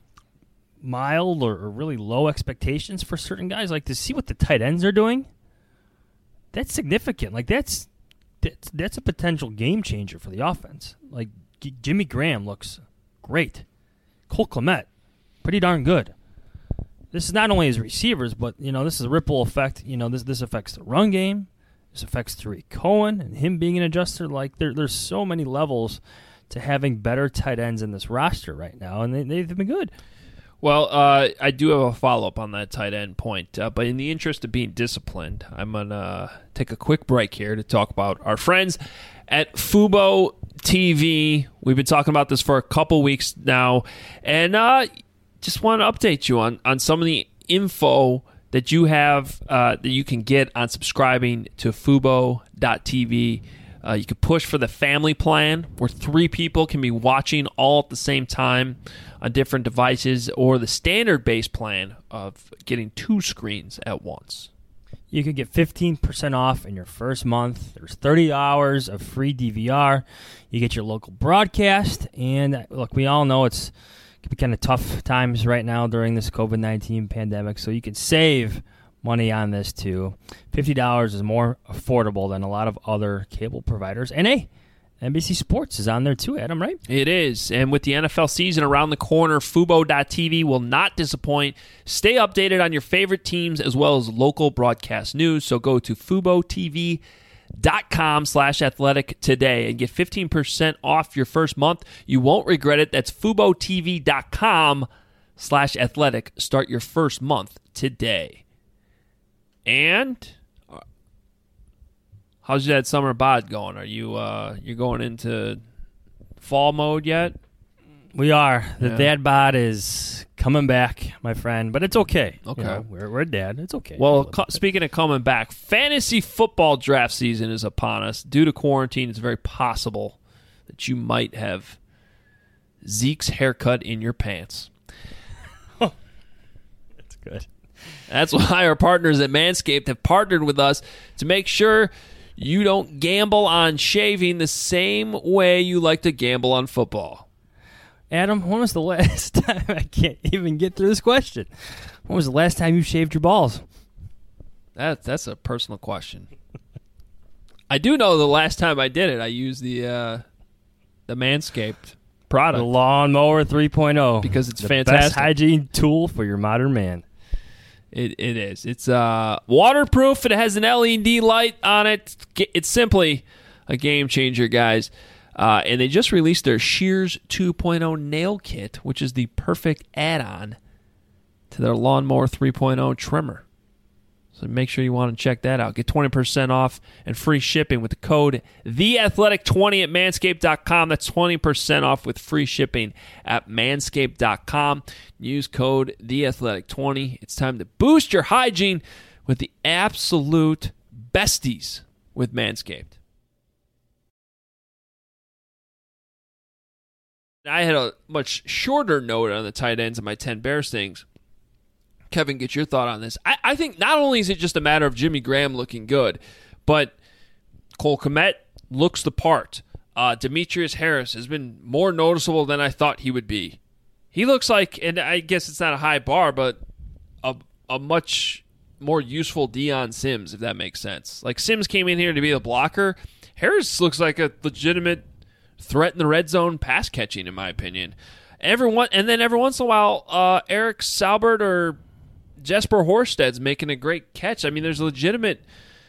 G: mild or, or really low expectations for certain guys, like to see what the tight ends are doing, that's significant. Like that's that's, that's a potential game changer for the offense. Like G- Jimmy Graham looks great. Cole Kmet, pretty darn good. This is not only his receivers, but you know this is a ripple effect. You know this this affects the run game. This affects Tariq Cohen and him being an adjuster. Like there there's so many levels to having better tight ends in this roster right now, and they they've been good.
F: Well, uh, I do have a follow-up on that tight end point, uh, but in the interest of being disciplined, I'm going to take a quick break here to talk about our friends at Fubo T V. We've been talking about this for a couple weeks now, and uh, just want to update you on, on some of the info that you have uh, that you can get on subscribing to Fubo dot T V. Uh, you can push for the family plan, where three people can be watching all at the same time on different devices, or the standard base plan of getting two screens at once.
G: You could get fifteen percent off in your first month. There's thirty hours of free D V R. You get your local broadcast. And look, we all know it's could be kind of tough times right now during this COVID nineteen pandemic. So you can save money on this too. fifty dollars is more affordable than a lot of other cable providers. And hey, N B C Sports is on there too, Adam, right?
F: It is. And with the N F L season around the corner, Fubo dot T V will not disappoint. Stay updated on your favorite teams as well as local broadcast news. So go to Fubo T V dot com slash athletic today and get fifteen percent off your first month. You won't regret it. That's Fubo T V dot com slash athletic. Start your first month today. And how's that summer bod going? Are you uh you going into fall mode yet?
G: We are. The
F: Yeah.
G: dad bod is coming back, my friend, but it's okay.
F: Okay.
G: You know, we're, we're a dad. It's okay.
F: Well, co- speaking of coming back, fantasy football draft season is upon us. Due to quarantine, it's very possible that you might have Zeke's haircut in your pants.
G: That's good.
F: That's why our partners at Manscaped have partnered with us to make sure you don't gamble on shaving the same way you like to gamble on football.
G: Adam, when was the last time, I can't even get through this question. When was the last time you shaved your balls?
F: That, that's a personal question. I do know the last time I did it, I used the uh, the Manscaped product.
G: The Lawnmower three point oh.
F: Because it's
G: the
F: fantastic.
G: best hygiene tool for your modern man.
F: It It is. It's uh, waterproof. It has an L E D light on it. It's simply a game changer, guys. Uh, and they just released their Shears two point oh nail kit, which is the perfect add-on to their Lawnmower three point oh trimmer. So make sure you want to check that out. Get twenty percent off and free shipping with the code the athletic twenty at manscaped dot com. That's twenty percent off with free shipping at manscaped dot com. Use code the athletic twenty. It's time to boost your hygiene with the absolute besties with Manscaped. I had a much shorter note on the tight ends of my ten Bears things. Kevin, get your thought on this. I, I think not only is it just a matter of Jimmy Graham looking good, but Cole Kmet looks the part. Uh, Demetrius Harris has been more noticeable than I thought he would be. He looks like, and I guess it's not a high bar, but a, a much more useful Deion Sims, if that makes sense. Like Sims came in here to be a blocker. Harris looks like a legitimate threat in the red zone pass catching, in my opinion. Everyone, and then every once in a while, uh, Eric Saubert or Jesper Horsted's making a great catch. I mean, there's a legitimate.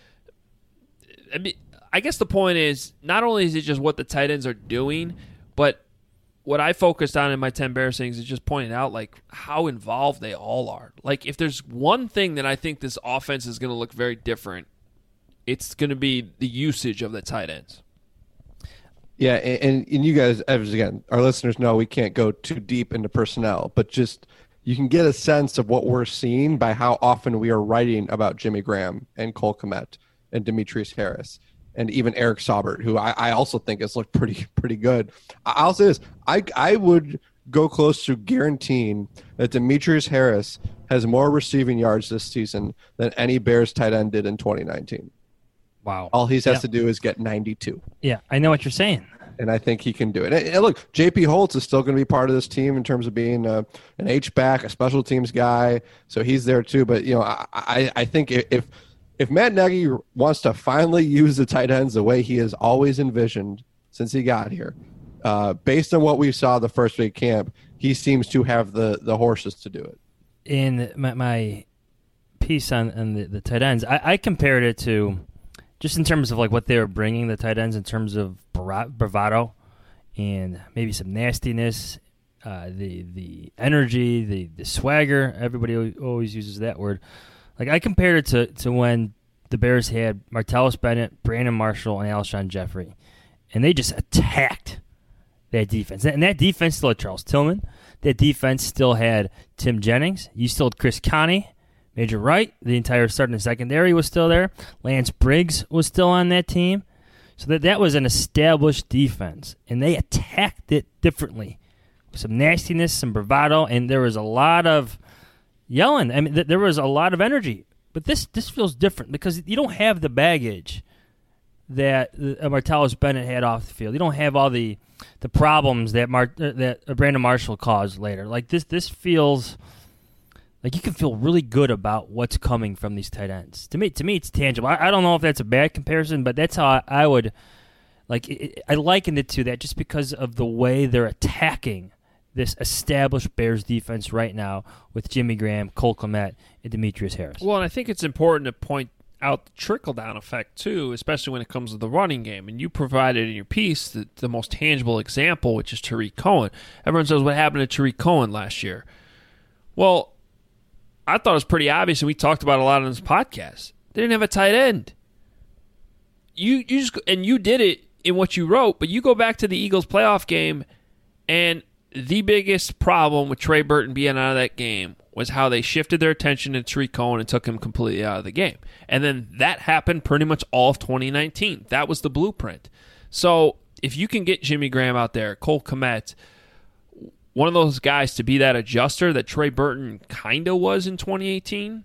F: I mean, I guess the point is not only is it just what the tight ends are doing, but what I focused on in my ten Bears things is just pointing out like how involved they all are. Like if there's one thing that I think this offense is going to look very different, it's going to be the usage of the tight ends.
H: Yeah, and, and you guys, as again, our listeners know we can't go too deep into personnel, but just you can get a sense of what we're seeing by how often we are writing about Jimmy Graham and Cole Kmet and Demetrius Harris and even Eric Saubert, who I, I also think has looked pretty pretty good. I'll say this, I, I would go close to guaranteeing that Demetrius Harris has more receiving yards this season than any Bears tight end did in twenty nineteen.
G: Wow.
H: All he has
G: Yeah.
H: to do is get ninety-two.
G: Yeah, I know what you're saying.
H: And I think he can do it. And, and look, J P Holtz is still going to be part of this team in terms of being a, an H-back, a special teams guy. So he's there too. But, you know, I, I, I think if if Matt Nagy wants to finally use the tight ends the way he has always envisioned since he got here, uh, based on what we saw the first week camp, he seems to have the, the horses to do it.
G: In my, my piece on, on the, the tight ends, I, I compared it to just in terms of like what they were bringing the tight ends in terms of bravado and maybe some nastiness, uh, the the energy, the, the swagger. Everybody always uses that word. Like I compared it to, to when the Bears had Martellus Bennett, Brandon Marshall, and Alshon Jeffrey, and they just attacked that defense. And that defense still had Charles Tillman. That defense still had Tim Jennings. You still had Chris Connie. Major Wright, the entire starting secondary was still there. Lance Briggs was still on that team. So that, that was an established defense. And they attacked it differently. Some nastiness, some bravado, and there was a lot of yelling. I mean, th- there was a lot of energy. But this this feels different because you don't have the baggage that uh, Martellus Bennett had off the field. You don't have all the, the problems that Mar- that Brandon Marshall caused later. Like this, this feels like you can feel really good about what's coming from these tight ends. To me, to me, it's tangible. I, I don't know if that's a bad comparison, but that's how I, I would like. It, I likened it to that just because of the way they're attacking this established Bears defense right now with Jimmy Graham, Cole Kmet, and Demetrius Harris.
F: Well, and I think it's important to point out the trickle-down effect, too, especially when it comes to the running game. And you provided in your piece the, the most tangible example, which is Tariq Cohen. Everyone says, what happened to Tariq Cohen last year? Well, I thought it was pretty obvious, and we talked about it a lot on this podcast. They didn't have a tight end. You, you just and you did it in what you wrote, but you go back to the Eagles playoff game, and the biggest problem with Trey Burton being out of that game was how they shifted their attention to Tariq Cohen and took him completely out of the game. And then that happened pretty much all of twenty nineteen. That was the blueprint. So if you can get Jimmy Graham out there, Cole Kmet, one of those guys to be that adjuster that Trey Burton kind of was in twenty eighteen,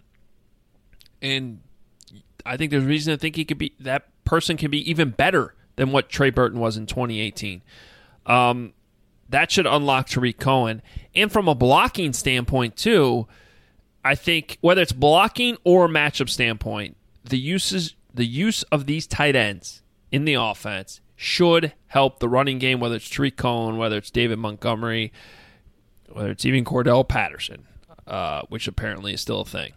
F: and I think there's reason to think he could be that person can be even better than what Trey Burton was in twenty eighteen. Um, That should unlock Tariq Cohen. And from a blocking standpoint, too, I think whether it's blocking or matchup standpoint, the uses the use of these tight ends in the offense should help the running game, whether it's Tariq Cohen, whether it's David Montgomery, whether it's even Cordell Patterson, uh, which apparently is still a thing.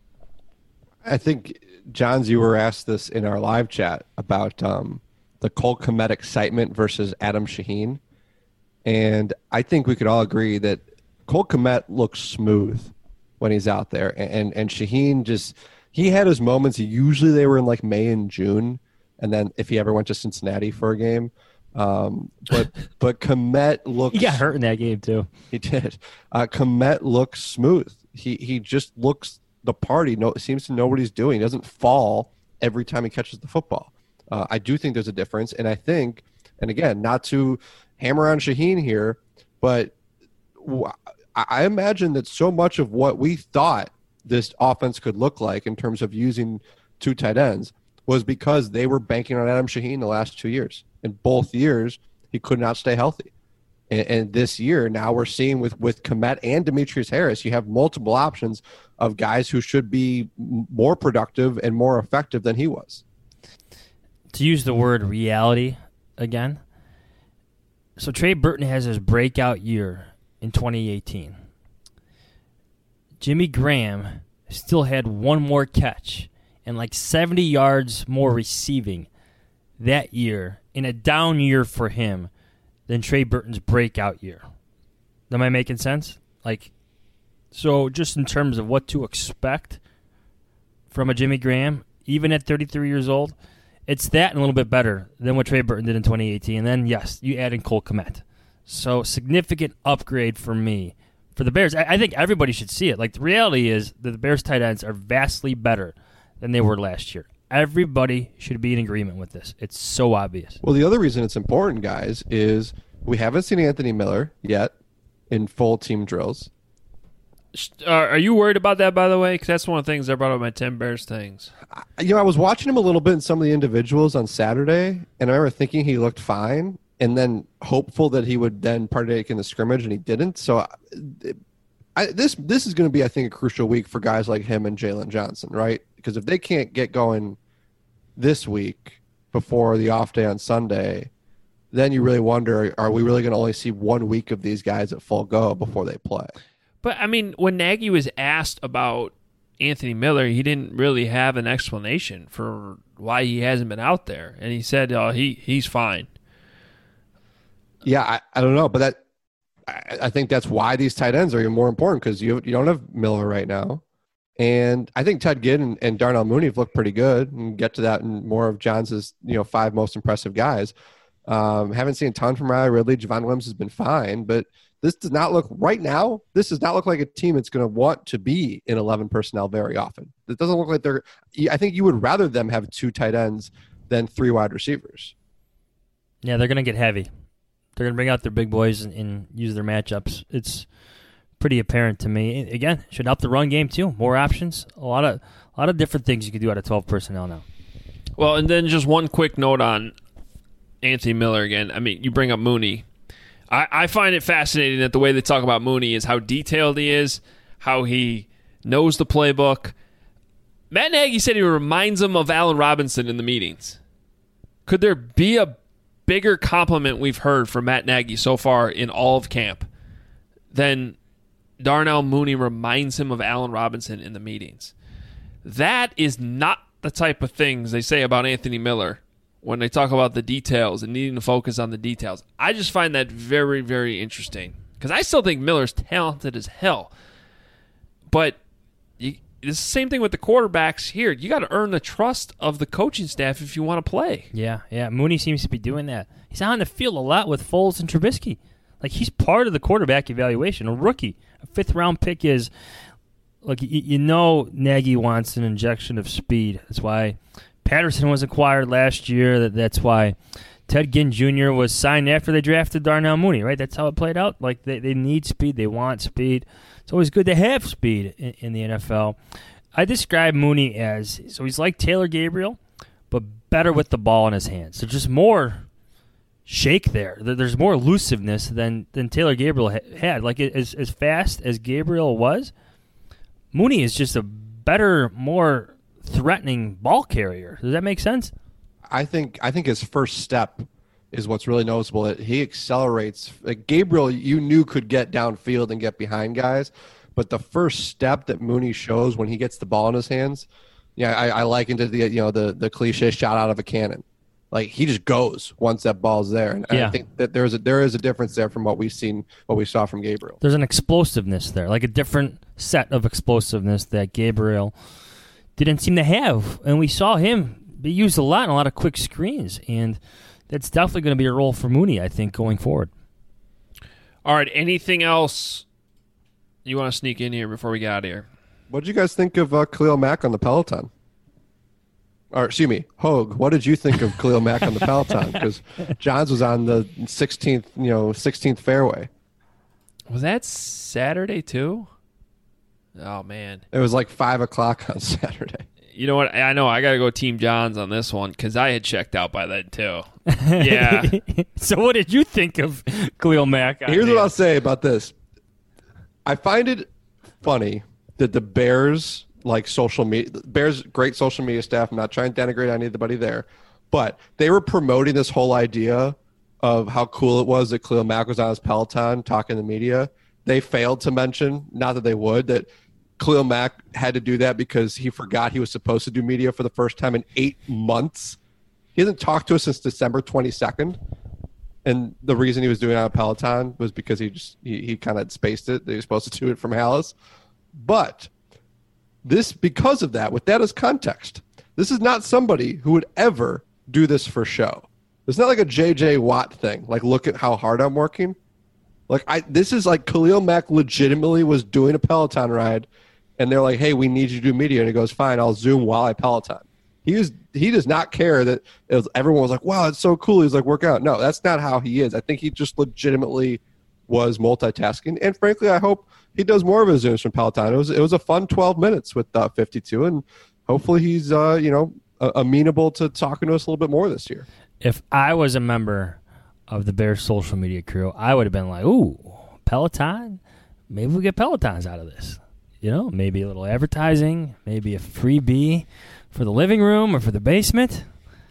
H: I think, Johns, you were asked this in our live chat about um, the Cole Kmet excitement versus Adam Shaheen. And I think we could all agree that Cole Kmet looks smooth when he's out there. And, and, and Shaheen just, he had his moments. Usually they were in like May and June. And then if he ever went to Cincinnati for a game. Um, but but Kmet looks.
G: He got hurt in that game too.
H: He did. Uh, Kmet looks smooth. He he just looks the part. He know, seems to know what he's doing. He doesn't fall every time he catches the football. Uh, I do think there's a difference. And I think, and again, not to hammer on Shaheen here, but I imagine that so much of what we thought this offense could look like in terms of using two tight ends was because they were banking on Adam Shaheen the last two years. In both years, he could not stay healthy. And, and this year, now we're seeing with, with Kmet and Demetrius Harris, you have multiple options of guys who should be more productive and more effective than he was.
G: To use the word reality again, so Trey Burton has his breakout year in twenty eighteen. Jimmy Graham still had one more catch and like seventy yards more receiving that year in a down year for him than Trey Burton's breakout year. Am I making sense? Like, so just in terms of what to expect from a Jimmy Graham, even at thirty-three years old, it's that and a little bit better than what Trey Burton did in twenty eighteen. And then, yes, you add in Cole Kmet. So, significant upgrade for me. For the Bears, I, I think everybody should see it. Like, the reality is that the Bears tight ends are vastly better than they were last year. Everybody should be in agreement with this. It's so obvious.
H: Well, the other reason it's important, guys, is we haven't seen Anthony Miller yet in full team drills.
F: Uh, are you worried about that, by the way? Because that's one of the things I brought up my ten Bears things.
H: I, you know, I was watching him a little bit in some of the individuals on Saturday, and I remember thinking he looked fine, and then hopeful that he would then partake in the scrimmage, and he didn't. So I, I, this this is going to be, I think, a crucial week for guys like him and Jalen Johnson, right? Because if they can't get going this week before the off day on Sunday, then you really wonder, are we really going to only see one week of these guys at full go before they play?
F: But, I mean, when Nagy was asked about Anthony Miller, he didn't really have an explanation for why he hasn't been out there. And he said, oh, he he's fine.
H: Yeah, I, I don't know. But that I, I think that's why these tight ends are even more important, because you, you don't have Miller right now. And I think Ted Ginn and, and Darnell Mooney have looked pretty good, and get to that in more of Johns' you know, five most impressive guys. Um, haven't seen a ton from Riley Ridley. Javon Williams has been fine, but this does not look right now. This does not look like a team that's going to want to be in eleven personnel very often. It doesn't look like they're. I think you would rather them have two tight ends than three wide receivers.
G: Yeah, they're going to get heavy. They're going to bring out their big boys and, and use their matchups. It's pretty apparent to me. Again, should help the run game too. More options. A lot of a lot of different things you can do out of twelve personnel now.
F: Well, and then just one quick note on Anthony Miller again. I mean, you bring up Mooney. I, I find it fascinating that the way they talk about Mooney is how detailed he is, how he knows the playbook. Matt Nagy said he reminds him of Allen Robinson in the meetings. Could there be a bigger compliment we've heard from Matt Nagy so far in all of camp than Darnell Mooney reminds him of Allen Robinson in the meetings? That is not the type of things they say about Anthony Miller when they talk about the details and needing to focus on the details. I just find that very, very interesting because I still think Miller's talented as hell. But you, it's the same thing with the quarterbacks here. You got to earn the trust of the coaching staff if you want to play.
G: Yeah, yeah. Mooney seems to be doing that. He's on the field a lot with Foles and Trubisky. Like, he's part of the quarterback evaluation. A rookie, a fifth-round pick is, look, you, you know Nagy wants an injection of speed. That's why Patterson was acquired last year. That That's why Ted Ginn Junior was signed after they drafted Darnell Mooney, right? That's how it played out. Like, they, they need speed. They want speed. It's always good to have speed in, in the N F L. I describe Mooney as, so he's like Taylor Gabriel, but better with the ball in his hands. There's just more shake there. There's more elusiveness than, than Taylor Gabriel ha- had. Like, as, as fast as Gabriel was, Mooney is just a better, more threatening ball carrier. Does that make sense?
H: I think I think his first step is what's really noticeable. He accelerates. Like Gabriel, you knew could get downfield and get behind guys, but the first step that Mooney shows when he gets the ball in his hands, yeah, I, I likened it to the you know the the cliche shot out of a cannon. Like he just goes once that ball's there, and
G: yeah.
H: I think that there's a there is a difference there from what we've seen, what we saw from Gabriel.
G: There's an explosiveness there, like a different set of explosiveness that Gabriel didn't seem to have, and we saw him be used a lot in a lot of quick screens, and that's definitely going to be a role for Mooney, I think, going forward.
F: All right, anything else you want to sneak in here before we get out of here?
H: What did you guys think of uh, Khalil Mack on the Peloton? Or excuse me, Hogue. What did you think of Khalil Mack on the Peloton? Because Johns was on the sixteenth, you know, sixteenth fairway.
F: Was that Saturday too? Oh man,
H: it was like five o'clock on Saturday.
F: You know what? I know I got to go Team Johns on this one because I had checked out by then too. Yeah.
G: So what did you think of Khalil Mack?
H: Here's what I'll say about this. I find it funny that the Bears, like social media, Bears great social media staff. I'm not trying to denigrate anybody there, but they were promoting this whole idea of how cool it was that Khalil Mack was on his Peloton talking to the media. They failed to mention, not that they would, that Khalil Mack had to do that because he forgot he was supposed to do media for the first time in eight months. He hasn't talked to us since December twenty-second. And the reason he was doing it on Peloton was because he just he, he kind of spaced it. They were supposed to do it from Hallis. But this, because of that, with that as context, this is not somebody who would ever do this for show. It's not like a J J Watt thing. Like, look at how hard I'm working. Like, I this is like Khalil Mack legitimately was doing a Peloton ride, and they're like, hey, we need you to do media. And he goes, fine, I'll Zoom while I Peloton. He was he does not care that it was, everyone was like, wow, it's so cool. He's like, work out. No, that's not how he is. I think he just legitimately was multitasking. And frankly, I hope he does more of his Zooms from Peloton. It was it was a fun twelve minutes with uh, fifty-two, and hopefully he's uh, you know uh, amenable to talking to us a little bit more this year.
G: If I was a member of the Bears social media crew, I would have been like, ooh, Peloton? Maybe we get Pelotons out of this. You know, maybe a little advertising, maybe a freebie for the living room or for the basement.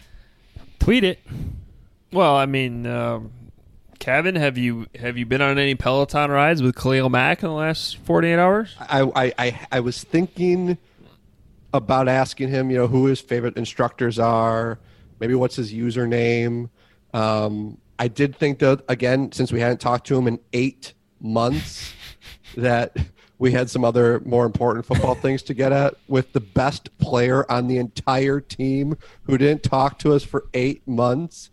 G: Tweet it.
F: Well, I mean, um, Kevin, have you have you been on any Peloton rides with Khalil Mack in the last forty-eight hours?
H: I, I, I, I was thinking about asking him, you know, who his favorite instructors are, maybe what's his username. Um, I did think that, again, since we hadn't talked to him in eight months, that we had some other more important football things to get at with the best player on the entire team who didn't talk to us for eight months.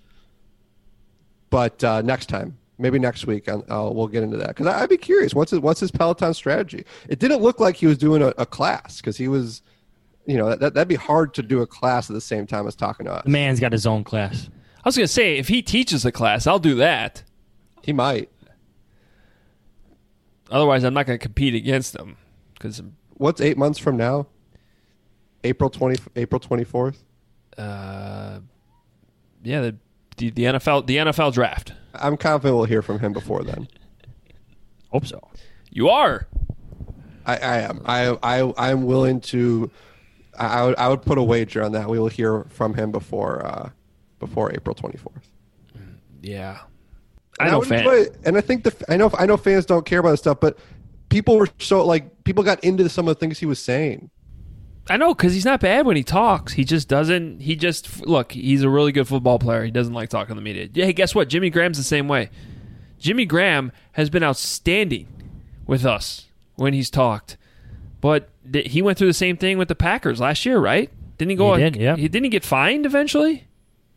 H: But uh, next time, maybe next week, I'll, I'll, we'll get into that. Because I'd be curious, what's his, what's his Peloton strategy? It didn't look like he was doing a, a class because he was, you know, that, that'd be hard to do a class at the same time as talking to us.
G: The man's got his own class.
F: I was going to say, if he teaches a class, I'll do that.
H: He might.
F: Otherwise, I'm not going to compete against him. Cause
H: what's eight months from now? April twentieth, April twenty-fourth?
F: Uh, yeah, the the, the N F L the N F L draft.
H: I'm confident we'll hear from him before then.
G: Hope so.
F: You are.
H: I, I am. I I I'm willing to. I, I would I would put a wager on that. We will hear from him before uh, before April twenty-fourth.
F: Yeah.
H: And
F: I know
H: I would
F: fans.
H: enjoy it. And I think the I know I know fans don't care about this stuff, but people were so like people got into some of the things he was saying.
F: I know, because he's not bad when he talks. He just doesn't. He just look. He's a really good football player. He doesn't like talking to the media. Yeah. Hey, guess what? Jimmy Graham's the same way. Jimmy Graham has been outstanding with us when he's talked, but th- he went through the same thing with the Packers last year, right? Didn't he go?
G: He did, yeah.
F: He didn't he get fined eventually?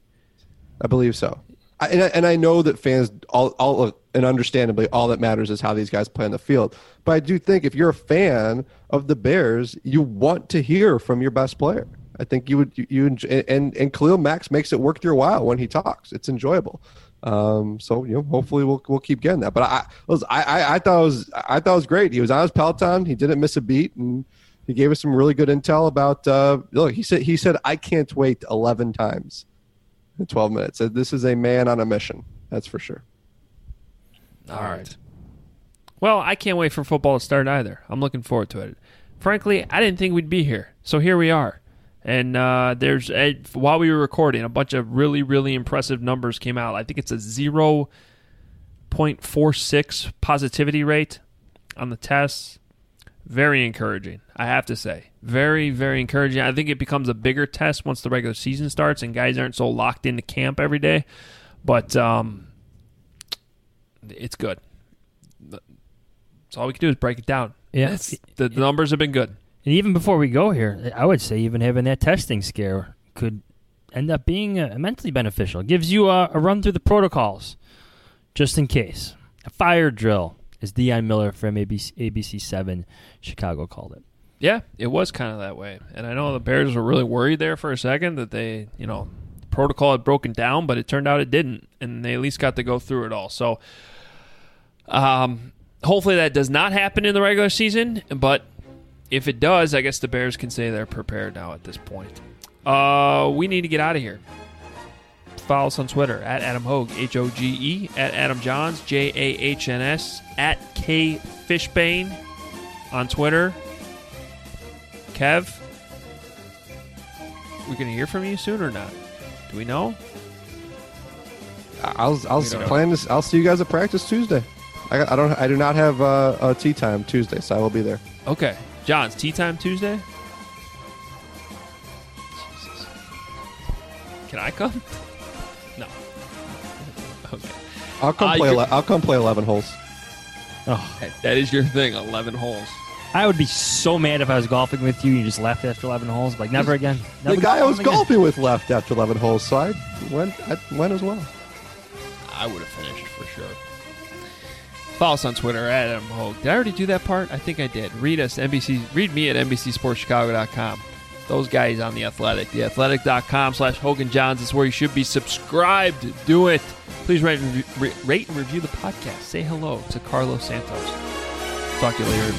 H: I believe so. I, and, I, and I know that fans, all, all, and understandably, all that matters is how these guys play on the field. But I do think if you're a fan of the Bears, you want to hear from your best player. I think you would, you, you enjoy, and and Khalil Mack makes it worth your while when he talks. It's enjoyable. Um, so you know, hopefully we'll we'll keep getting that. But I was I, I I thought it was I thought it was great. He was on his Peloton. He didn't miss a beat, and he gave us some really good intel about. Uh, look, he said he said I can't wait eleven times. In twelve minutes. This is a man on a mission. That's for sure.
F: All right. Well, I can't wait for football to start either. I'm looking forward to it. Frankly, I didn't think we'd be here. So here we are. And uh, there's a, while we were recording, a bunch of really, really impressive numbers came out. I think it's a zero point four six positivity rate on the tests. Very encouraging, I have to say. Very, very encouraging. I think it becomes a bigger test once the regular season starts and guys aren't so locked into camp every day. But um, it's good. That's all we can do is break it down.
G: Yeah.
F: It's, the, the numbers have been good.
G: And even before we go here, I would say even having that testing scare could end up being uh, immensely beneficial. It gives you a, a run through the protocols, just in case. A fire drill, as Deion Miller from A B C, A B C seven Chicago called it.
F: Yeah, it was kind of that way. And I know the Bears were really worried there for a second that they, you know, the protocol had broken down, but it turned out it didn't. And they at least got to go through it all. So um, hopefully that does not happen in the regular season. But if it does, I guess the Bears can say they're prepared now at this point. Uh, we need to get out of here. Follow us on Twitter, at Adam Hogue, H O G E, at Adam Johns, J A H N S, at K Fishbane on Twitter. Kev, we going to hear from you soon or not? Do we know?
H: I'll I'll plan this. I'll see you guys at practice Tuesday. I, I don't. I do not have uh, a tea time Tuesday, so I will be there.
F: Okay, John's tea time Tuesday. Jesus. Can I come? No. Okay.
H: I'll come
F: Uh,
H: play.
F: you're-
H: ele- I'll come play eleven holes.
G: Oh,
F: That is your thing. Eleven holes.
G: I would be so mad if I was golfing with you and you just left after eleven holes. Like, never again.
H: The
G: Never
H: guy I was
G: again.
H: golfing with left after eleven holes, so I went. I went as well.
F: I would have finished for sure. Follow us on Twitter at Adam Hogue. Did I already do that part? I think I did. Read us N B C. Read me at N B C Sports Chicago dot com. Those guys on The Athletic. The Athletic dot com slash Hogan Johns is where you should be subscribed. Do it. Please rate and, re- rate and review the podcast. Say hello to Carlos Santos. Talk to you later.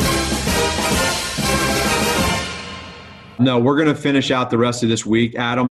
I: No, we're going to finish out the rest of this week, Adam.